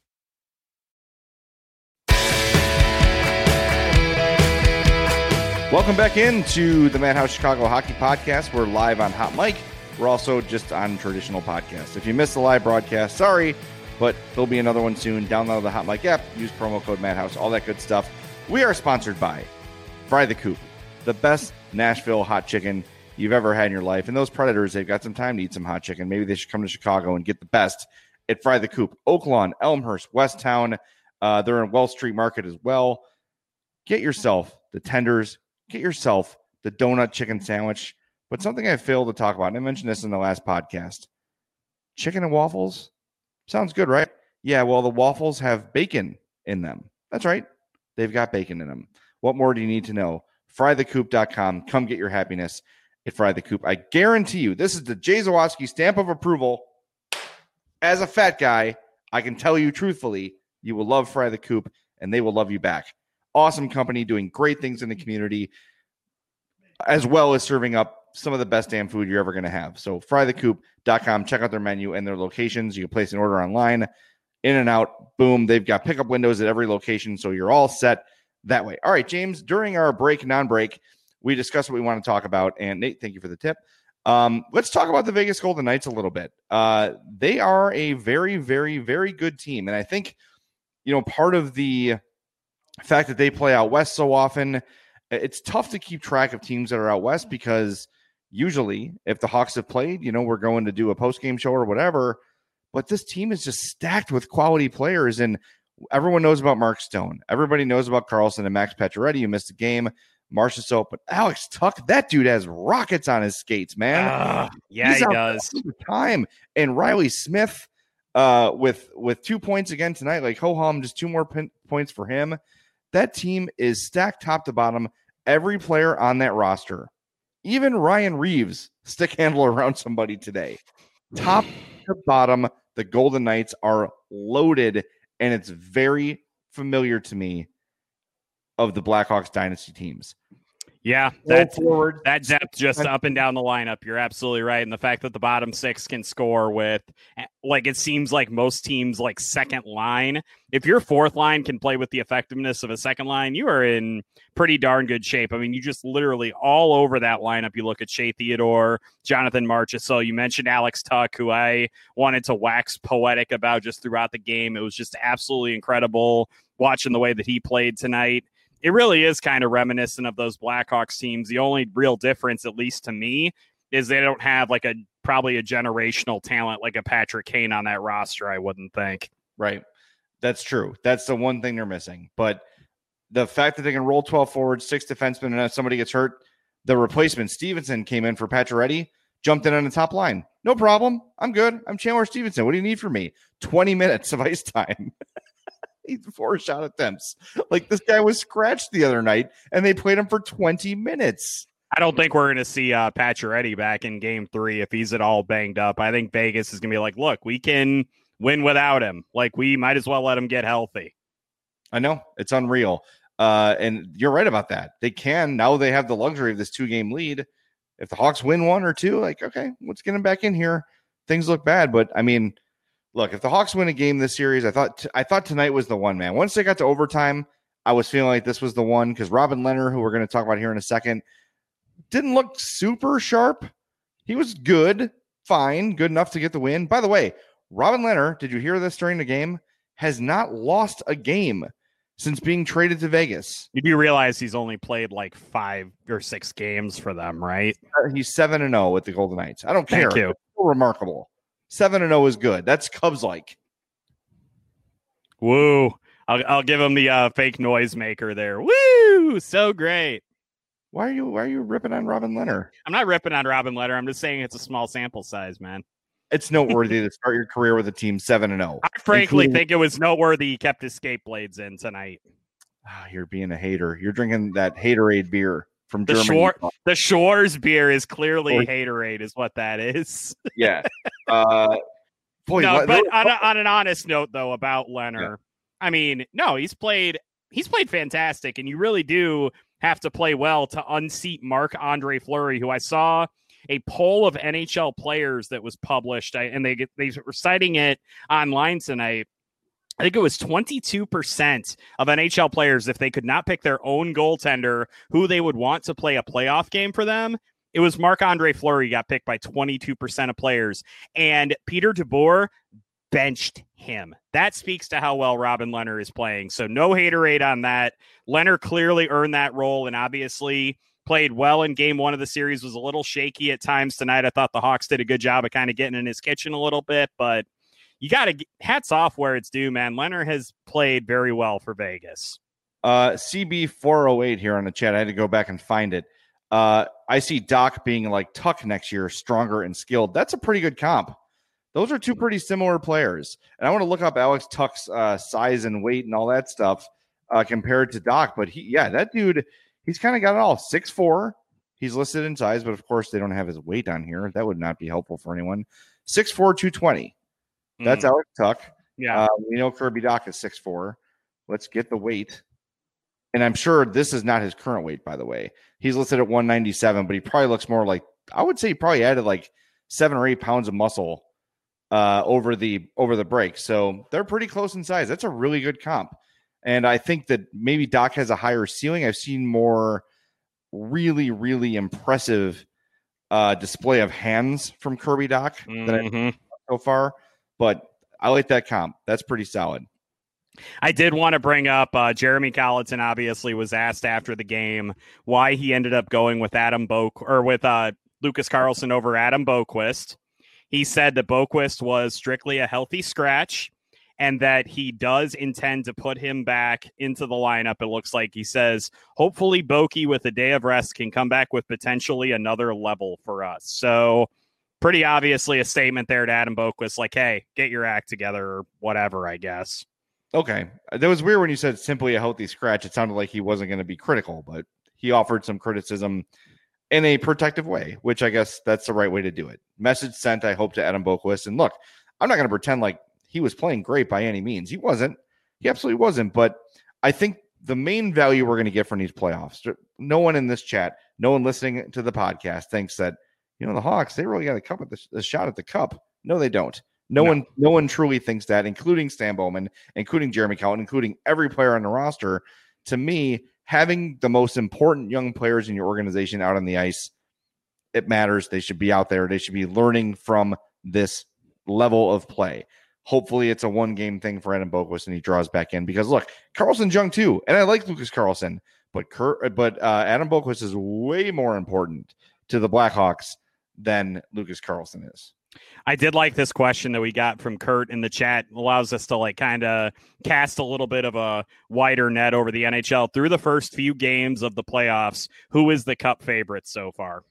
Welcome back into the Madhouse Chicago Hockey Podcast. We're live on Hot Mic. We're also just on traditional podcasts. If you missed the live broadcast, sorry, but there'll be another one soon. Download the Hot Mic app, use promo code Madhouse, all that good stuff. We are sponsored by Fry the Coop, the best Nashville hot chicken you've ever had in your life. And those Predators, they've got some time to eat some hot chicken. Maybe they should come to Chicago and get the best at Fry the Coop. Oak Lawn, Elmhurst, Westtown. Uh, they're in Wells Street Market as well. Get yourself the tenders. Get yourself the donut chicken sandwich. But something I failed to talk about, and I mentioned this in the last podcast. Chicken and waffles? Sounds good, right? Yeah, well, the waffles have bacon in them. That's right. They've got bacon in them. What more do you need to know? fry the coop dot com. Come get your happiness at Fry the Coop. I guarantee you, this is the Jay Zawaski stamp of approval. As a fat guy, I can tell you truthfully, you will love Fry the Coop, and they will love you back. Awesome company doing great things in the community, as well as serving up some of the best damn food you're ever going to have. So fry the coop dot com, check out their menu and their locations. You can place an order online, in and out, boom. They've got pickup windows at every location, so you're all set that way. All right, James, during our break, non-break, we discussed what we want to talk about, and Nate, thank you for the tip. Um, let's talk about the Vegas Golden Knights a little bit. Uh, they are a very, very, very good team, and I think, you know, part of the fact that they play out west so often, it's tough to keep track of teams that are out west because usually if the Hawks have played, you know, we're going to do a post-game show or whatever, but this team is just stacked with quality players, and everyone knows about Mark Stone. Everybody knows about Carlson and Max Pacioretty, who missed a game. Marchessault, but Alex Tuch, that dude has rockets on his skates, man. Uh, yeah, He's he does. Time. And Riley Smith uh, with with two points again tonight, like ho-hum, just two more pin- points for him. That team is stacked top to bottom. Every player on that roster, even Ryan Reeves, stick handle around somebody today. Top to bottom, the Golden Knights are loaded, and it's very familiar to me of the Blackhawks dynasty teams. Yeah, that's forward. That depth just up and down the lineup. You're absolutely right. And the fact that the bottom six can score with, like, it seems like most teams, like, second line. If your fourth line can play with the effectiveness of a second line, you are in pretty darn good shape. I mean, you just literally all over that lineup. You look at Shea Theodore, Jonathan Marchessault. You mentioned Alex Tuch, who I wanted to wax poetic about just throughout the game. It was just absolutely incredible watching the way that he played tonight. It really is kind of reminiscent of those Blackhawks teams. The only real difference, at least to me, is they don't have like a probably a generational talent like a Patrick Kane on that roster, I wouldn't think. Right. That's true. That's the one thing they're missing. But the fact that they can roll twelve forwards, six defensemen, and if somebody gets hurt, the replacement, Stevenson, came in for Pacioretty, jumped in on the top line. No problem. I'm good. I'm Chandler Stevenson. What do you need from me? twenty minutes of ice time. He's four shot attempts. Like, this guy was scratched the other night, and they played him for twenty minutes. I don't think we're going to see uh, Pacioretty back in game three if he's at all banged up. I think Vegas is going to be like, look, we can win without him. Like, we might as well let him get healthy. I know. It's unreal. Uh, and you're right about that. They can. Now they have the luxury of this two-game lead. If the Hawks win one or two, like, okay, let's get him back in here. Things look bad, but, I mean, look, if the Hawks win a game this series, I thought I thought tonight was the one, man. Once they got to overtime, I was feeling like this was the one because Robin Lehner, who we're going to talk about here in a second, didn't look super sharp. He was good, fine, good enough to get the win. By the way, Robin Lehner, did you hear this during the game, has not lost a game since being traded to Vegas. You do realize he's only played like five or six games for them, right? He's seven and zero with the Golden Knights. I don't care. Thank you. It's so remarkable. Seven and zero is good. That's Cubs like. Woo! I'll I'll give him the uh, fake noise maker there. Woo! So great. Why are you Why are you ripping on Robin Lehner? I'm not ripping on Robin Lehner. I'm just saying it's a small sample size, man. It's noteworthy to start your career with a team seven and zero. I frankly including... think it was noteworthy he kept his skate blades in tonight. Oh, you're being a hater. You're drinking that Haterade beer from the Germany. Shore, the Shores beer is clearly oh. Haterade, is what that is. Yeah. Uh, boy, no, what, but was, on, a, on an honest note, though, about Lehner, yeah. I mean, no, he's played he's played fantastic, and you really do have to play well to unseat Marc-Andre Fleury, who I saw a poll of N H L players that was published, and they get they were citing it online tonight. I think it was twenty-two percent of N H L players, if they could not pick their own goaltender who they would want to play a playoff game for them, it was Marc-Andre Fleury got picked by twenty-two percent of players. And Peter DeBoer benched him. That speaks to how well Robin Lehner is playing. So no haterade on that. Lehner clearly earned that role and obviously played well in game one of the series, was a little shaky at times tonight. I thought the Hawks did a good job of kind of getting in his kitchen a little bit, but you got to hats off where it's due, man. Lehner has played very well for Vegas. Uh, C B four oh eight here on the chat. I had to go back and find it. Uh, I see Doc being like Tuck next year, stronger and skilled. That's a pretty good comp. Those are two pretty similar players. And I want to look up Alex Tuck's uh, size and weight and all that stuff uh, compared to Doc. But he, yeah, that dude, he's kind of got it all. six foot four. He's listed in size, but of course they don't have his weight on here. That would not be helpful for anyone. six foot four, two twenty. That's mm. Alex Tuck. Yeah. Uh, we know Kirby Dach is six foot four. Let's get the weight. And I'm sure this is not his current weight, by the way. He's listed at one ninety-seven, but he probably looks more like, I would say he probably added like seven or eight pounds of muscle uh, over the over the break. So they're pretty close in size. That's a really good comp. And I think that maybe Dach has a higher ceiling. I've seen more really, really impressive uh, display of hands from Kirby Dach mm-hmm. than I've so far. But I like that comp. That's pretty solid. I did want to bring up uh, Jeremy Colleton. Obviously, was asked after the game why he ended up going with Adam Bo or with uh, Lucas Carlson over Adam Boqvist. He said that Boqvist was strictly a healthy scratch, and that he does intend to put him back into the lineup. It looks like he says, hopefully, Boki with a day of rest can come back with potentially another level for us. So, pretty obviously a statement there to Adam Boqvist, like, hey, get your act together or whatever, I guess. Okay. That was weird when you said simply a healthy scratch. It sounded like he wasn't going to be critical, but he offered some criticism in a protective way, which I guess that's the right way to do it. Message sent, I hope, to Adam Boqvist. And look, I'm not going to pretend like he was playing great by any means. He wasn't. He absolutely wasn't. But I think the main value we're going to get from these playoffs, no one in this chat, no one listening to the podcast thinks that, you know, the Hawks, they really got a cup at the, the shot at the cup. No, they don't. No, no one, no one truly thinks that, including Stan Bowman, including Jeremy Colleton, including every player on the roster. To me, having the most important young players in your organization out on the ice, it matters. They should be out there. They should be learning from this level of play. Hopefully, it's a one-game thing for Adam Boqvist, and he draws back in. Because look, Carlson's young too, and I like Lucas Carlson, but Kurt, but uh, Adam Boqvist is way more important to the Blackhawks than Lucas Carlson is. I did like this question that we got from Kurt in the chat. It allows us to like kind of cast a little bit of a wider net over the N H L through the first few games of the playoffs. Who is the cup favorite so far?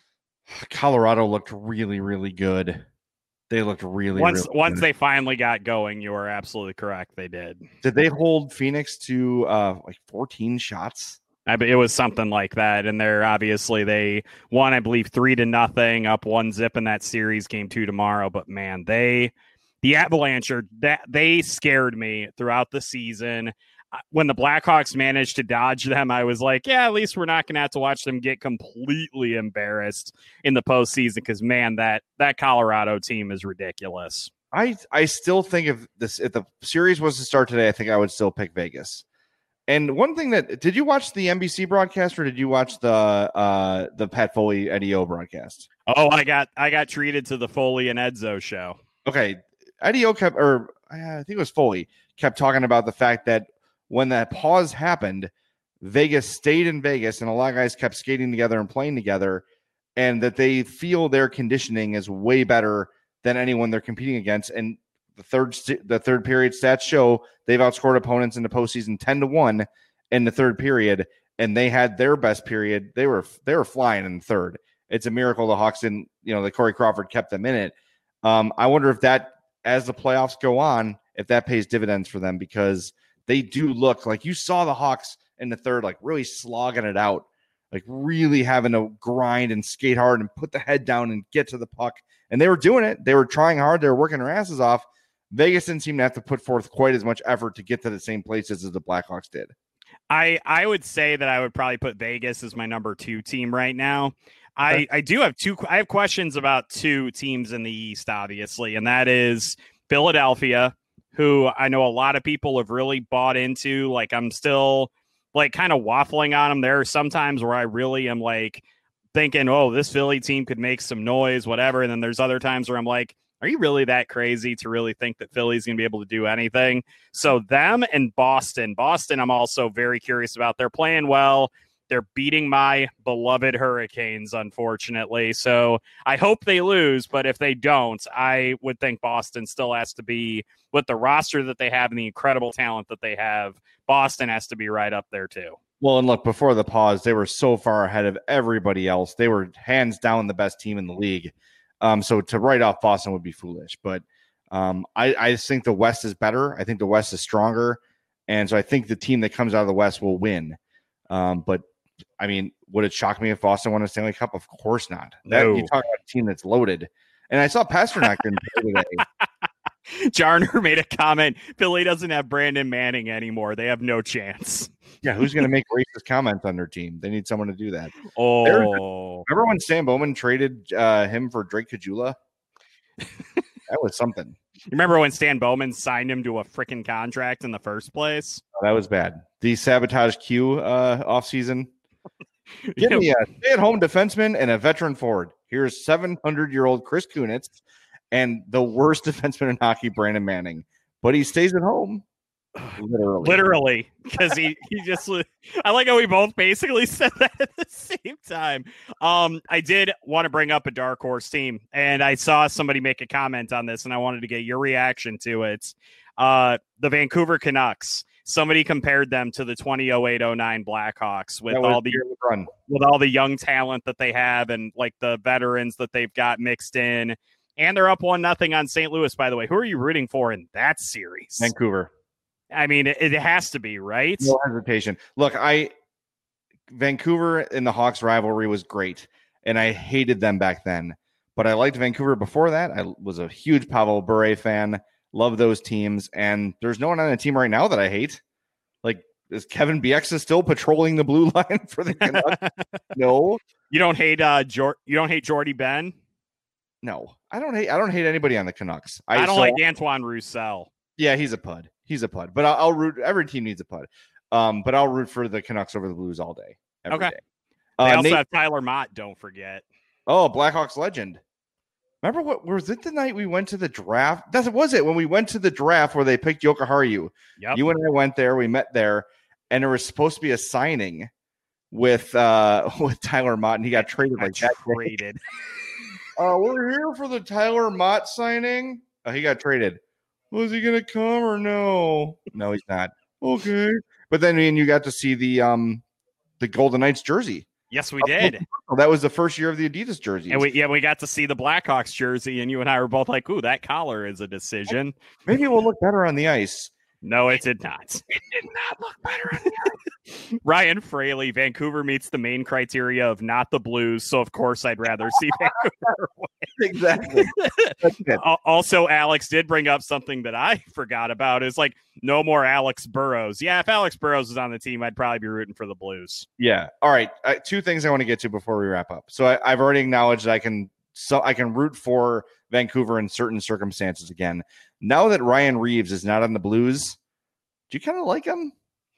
Colorado looked really, really good. They looked really, once really once good. They finally got going. You are absolutely correct. They did. Did they hold Phoenix to uh, like fourteen shots? I, it was something like that, and they're obviously they won, I believe, three to nothing, up one zip in that series. Game two tomorrow, but man, they the Avalanche are that they scared me throughout the season. When the Blackhawks managed to dodge them, I was like, yeah, at least we're not going to have to watch them get completely embarrassed in the postseason. Because man, that that Colorado team is ridiculous. I I still think if this if the series was to start today, I think I would still pick Vegas. And one thing that did you watch the N B C broadcast or did you watch the uh, the Pat Foley Eddie O broadcast? Oh, I got I got treated to the Foley and Edzo show. Okay, Eddie O kept, or I think it was Foley, kept talking about the fact that when that pause happened, Vegas stayed in Vegas and a lot of guys kept skating together and playing together, and that they feel their conditioning is way better than anyone they're competing against. And The third the third period stats show they've outscored opponents in the postseason ten to one in the third period, and they had their best period. They were they were flying in the third. It's a miracle the Hawks didn't, you know, the Corey Crawford kept them in it. Um, I wonder if that, as the playoffs go on, if that pays dividends for them, because they do look like you saw the Hawks in the third, like really slogging it out, like really having to grind and skate hard and put the head down and get to the puck. And they were doing it. They were trying hard. They were working their asses off. Vegas didn't seem to have to put forth quite as much effort to get to the same places as the Blackhawks did. I, I would say that I would probably put Vegas as my number two team right now. I, I do have two. I have questions about two teams in the East, obviously, and that is Philadelphia, who I know a lot of people have really bought into. Like, I'm still like kind of waffling on them. There are some times where I really am like thinking, oh, this Philly team could make some noise, whatever. And then there's other times where I'm like, are you really that crazy to really think that Philly's going to be able to do anything? So them and Boston. Boston, I'm also very curious about. They're playing well. They're beating my beloved Hurricanes, unfortunately. So I hope they lose, but if they don't, I would think Boston still has to be, with the roster that they have and the incredible talent that they have, Boston has to be right up there too. Well, and look, before the pause, they were so far ahead of everybody else. They were hands down the best team in the league. Um, so to write off Boston would be foolish. But um, I, I just think the West is better. I think the West is stronger. And so I think the team that comes out of the West will win. Um, but I mean, would it shock me if Boston won a Stanley Cup? Of course not. That, No. You talk about a team that's loaded. And I saw Pasternak didn't play today. Jarner made a comment. Philly doesn't have Brandon Manning anymore. They have no chance. Yeah, who's going to make racist comments on their team? They need someone to do that. Oh, remember when Stan Bowman traded uh, him for Drake Kajula? That was something. You remember when Stan Bowman signed him to a freaking contract in the first place? Oh, that was bad. The sabotage Q uh, offseason. Give me a stay-at-home defenseman and a veteran forward. Here's seven hundred-year-old Chris Kunitz and the worst defenseman in hockey, Brandon Manning. But he stays at home. Literally. Literally. Because he, he just, I like how we both basically said that at the same time. Um, I did want to bring up a dark horse team, and I saw somebody make a comment on this, and I wanted to get your reaction to it. Uh, the Vancouver Canucks. Somebody compared them to the twenty oh eight oh nine Blackhawks with all the run. with all the young talent that they have and like the veterans that they've got mixed in. And they're up one nothing on Saint Louis, by the way. Who are you rooting for in that series? Vancouver. I mean, it, it has to be, right? No hesitation. Look, I Vancouver and the Hawks rivalry was great, and I hated them back then. But I liked Vancouver before that. I was a huge Pavel Bure fan. Love those teams, and there's no one on the team right now that I hate. Like, is Kevin Bieksa still patrolling the blue line for the Canucks? No, you don't hate. Uh, Jor- you don't hate Jordy Ben. No, I don't hate. I don't hate anybody on the Canucks. I, I don't so, like Antoine Roussel. Yeah, he's a pud. He's a pud. But I'll, I'll root. Every team needs a pud. Um, but I'll root for the Canucks over the Blues all day. Every okay. Day. They Uh, also Nate, have Tyler Mott. Don't forget. oh, Blackhawks legend. Remember what was it the night we went to the draft? That was it when we went to the draft where they picked Joka Haru. Yep. You and I went there. We met there, and there was supposed to be a signing with uh with Tyler Mott, and he got traded got like that. Traded. Uh, we're here for the Tyler Mott signing. Oh, he got traded. Was he gonna come or no? No, he's not. Okay, but then me and you got to see the um the Golden Knights jersey. Yes, we did. That was the first year of the Adidas jersey. And we, yeah, we got to see the Blackhawks jersey, and you and I were both like, ooh, that collar is a decision. Maybe it will look better on the ice. No, it did not. It did not look better on the ice. Ryan Fraley, Vancouver meets the main criteria of not the Blues, so of course I'd rather see Vancouver win. Exactly. That's it. Also, Alex did bring up something that I forgot about. Is like no more Alex Burrows. Yeah, if Alex Burrows was on the team, I'd probably be rooting for the Blues. Yeah. All right. Uh, two things I want to get to before we wrap up. So I, I've already acknowledged I can so I can root for Vancouver in certain circumstances again. Now that Ryan Reeves is not on the Blues, do you kind of like him?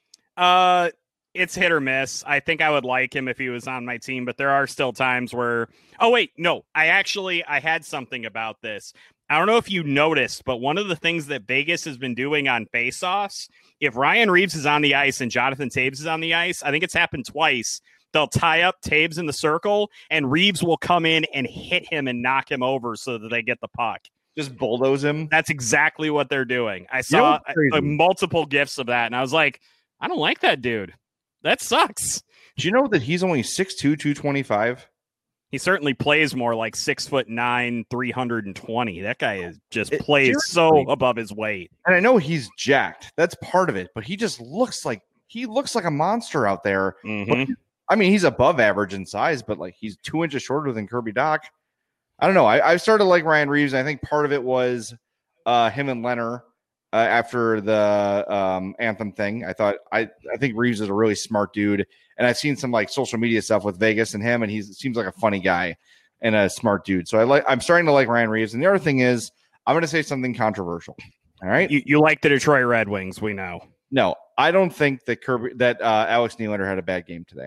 Uh, it's hit or miss. I think I would like him if he was on my team, but there are still times where, oh wait, no, I actually, I had something about this. I don't know if you noticed, but one of the things that Vegas has been doing on faceoffs, if Ryan Reeves is on the ice and Jonathan Taves is on the ice, I think it's happened twice. They'll tie up Taves in the circle and Reeves will come in and hit him and knock him over so that they get the puck. Just bulldoze him. That's exactly what they're doing. I saw you know uh, multiple gifs of that, and I was like, I don't like that dude. That sucks. Do you know that he's only six two, two twenty-five? He certainly plays more like six foot nine, three hundred twenty. That guy is just It- plays so seriously. above his weight. And I know he's jacked. That's part of it. But he just looks like he looks like a monster out there. Mhm. I mean, he's above average in size, but like he's two inches shorter than Kirby Doc. I don't know. I, I started to like Ryan Reeves. I think part of it was uh, him and Leonard uh, after the um, Anthem thing. I thought I, I think Reeves is a really smart dude, and I've seen some like social media stuff with Vegas and him, and he seems like a funny guy and a smart dude. So I like. I'm starting to like Ryan Reeves. And the other thing is, I'm going to say something controversial. All right, You, you like the Detroit Red Wings, we know. no, I don't think that Kirby that uh, Alex Nylander had a bad game today.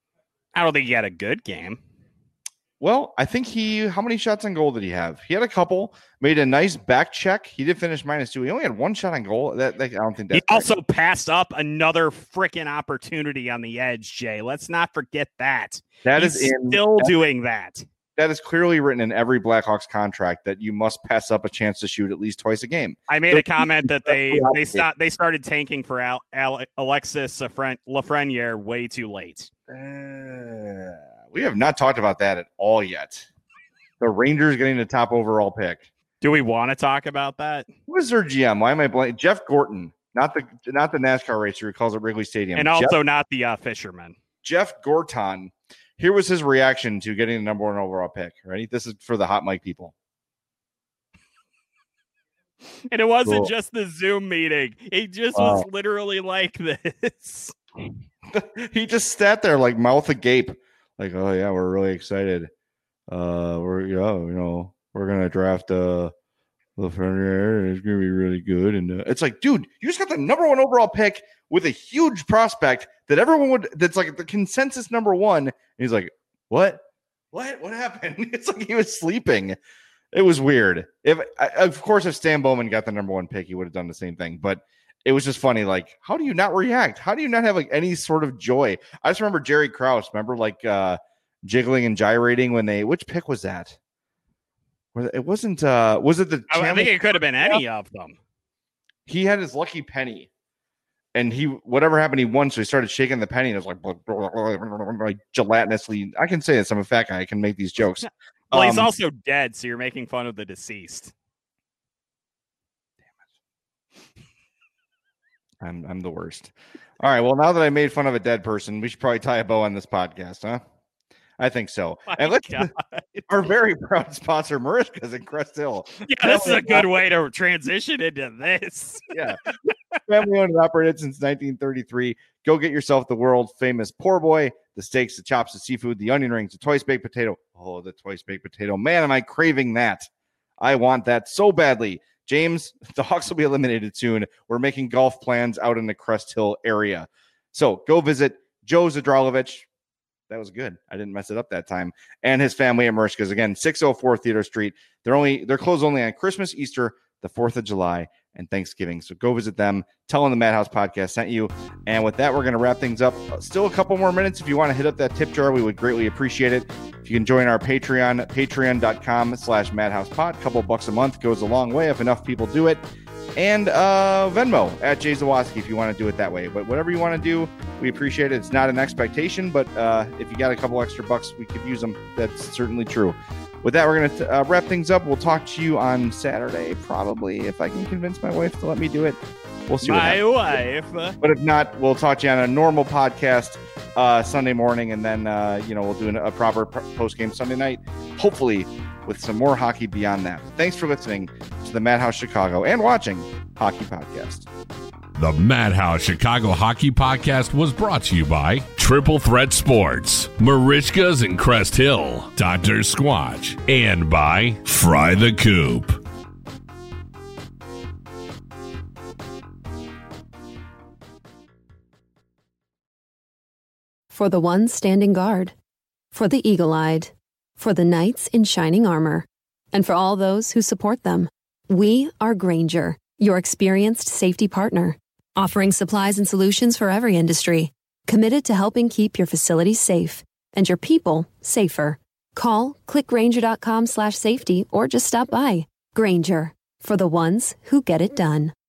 I don't think he had a good game. Well, I think he, how many shots on goal did he have? He had a couple, made a nice back check. He did finish minus two. He only had one shot on goal. That, that I don't think He that's also passed up another freaking opportunity on the edge, Jay. Let's not forget that. that He's is in still that, doing that. that is clearly written in every Blackhawks contract that you must pass up a chance to shoot at least twice a game. I made a comment that they they start they started tanking for Al, Al, Alexis Lafreniere way too late. Uh, we have not talked about that at all yet. The Rangers getting the top overall pick. Do we want to talk about that? Who is their G M? Why am I blanking? Jeff Gorton, not the not the NASCAR racer who calls it Wrigley Stadium. And Jeff- also not the uh, fisherman. Jeff Gorton. Here was his reaction to getting the number one overall pick. Ready? This is for the hot mic people. And it wasn't Cool. just the Zoom meeting. He just Wow. was literally like this. He just sat there like mouth agape, like, oh yeah, we're really excited. Uh, we're yeah, you know, we're gonna draft uh Lafreniere. It's gonna be really good, and uh, it's like, dude, you just got the number one overall pick with a huge prospect that everyone would. That's like the consensus number one. And he's like, what? What? What happened? It's like he was sleeping. It was weird. If of course, if Stan Bowman got the number one pick, he would have done the same thing. But it was just funny. Like, how do you not react? How do you not have like any sort of joy? I just remember Jerry Krause. Remember, like uh, jiggling and gyrating when they. Which pick was that? Where it wasn't. Uh, was it the? I think it could have been any of them. He had his lucky penny, and he whatever happened, he won. So he started shaking the penny, and it was like, like gelatinously. I can say this. I'm a fat guy. I can make these jokes. Well, he's Um, also dead, so you're making fun of the deceased. I'm I'm the worst. All right. Well, now that I made fun of a dead person, we should probably tie a bow on this podcast, huh? I think so. My and let's God. our very proud sponsor, Marishka's in Crest Hill. Yeah, this is a good way to transition into this. Yeah. Family owned and operated since nineteen thirty-three. Go get yourself the world famous poor boy, the steaks, the chops, the seafood, the onion rings, the twice baked potato. Oh, the twice baked potato. Man, am I craving that. I want that so badly. James, the Hawks will be eliminated soon. We're making golf plans out in the Crest Hill area. So go visit Joe Zadralovich. That was good. I didn't mess it up that time. And his family at Marishka's. Again, six oh four Theater Street. They're only they're closed only on Christmas, Easter, the fourth of July, and Thanksgiving. So go visit them. Tell them the Madhouse Podcast sent you. And with that, we're going to wrap things up. Still a couple more minutes. If you want to hit up that tip jar, we would greatly appreciate it. If you can join our Patreon, patreon.com slash madhousepod. A couple bucks a month goes a long way if enough people do it. And uh, Venmo at Jay Zawoski if you want to do it that way. But whatever you want to do, we appreciate it. It's not an expectation, but uh, if you got a couple extra bucks, we could use them. That's certainly true. With that, we're going to uh, wrap things up. We'll talk to you on Saturday, probably, if I can convince my wife to let me do it. We'll see what My happens. wife. But if not, we'll talk to you on a normal podcast uh, Sunday morning, and then uh, you know we'll do an, a proper post game Sunday night, hopefully with some more hockey beyond that. Thanks for listening to the Madhouse Chicago and watching Hockey Podcast. The Madhouse Chicago Hockey Podcast was brought to you by Triple Threat Sports, Marishka's in Crest Hill, Doctor Squatch, and by Fry the Coop. For the ones standing guard, for the eagle-eyed, for the knights in shining armor, and for all those who support them. We are Grainger, your experienced safety partner, offering supplies and solutions for every industry, committed to helping keep your facilities safe and your people safer. Call, click Grainger.com slash safety, or just stop by. Grainger, for the ones who get it done.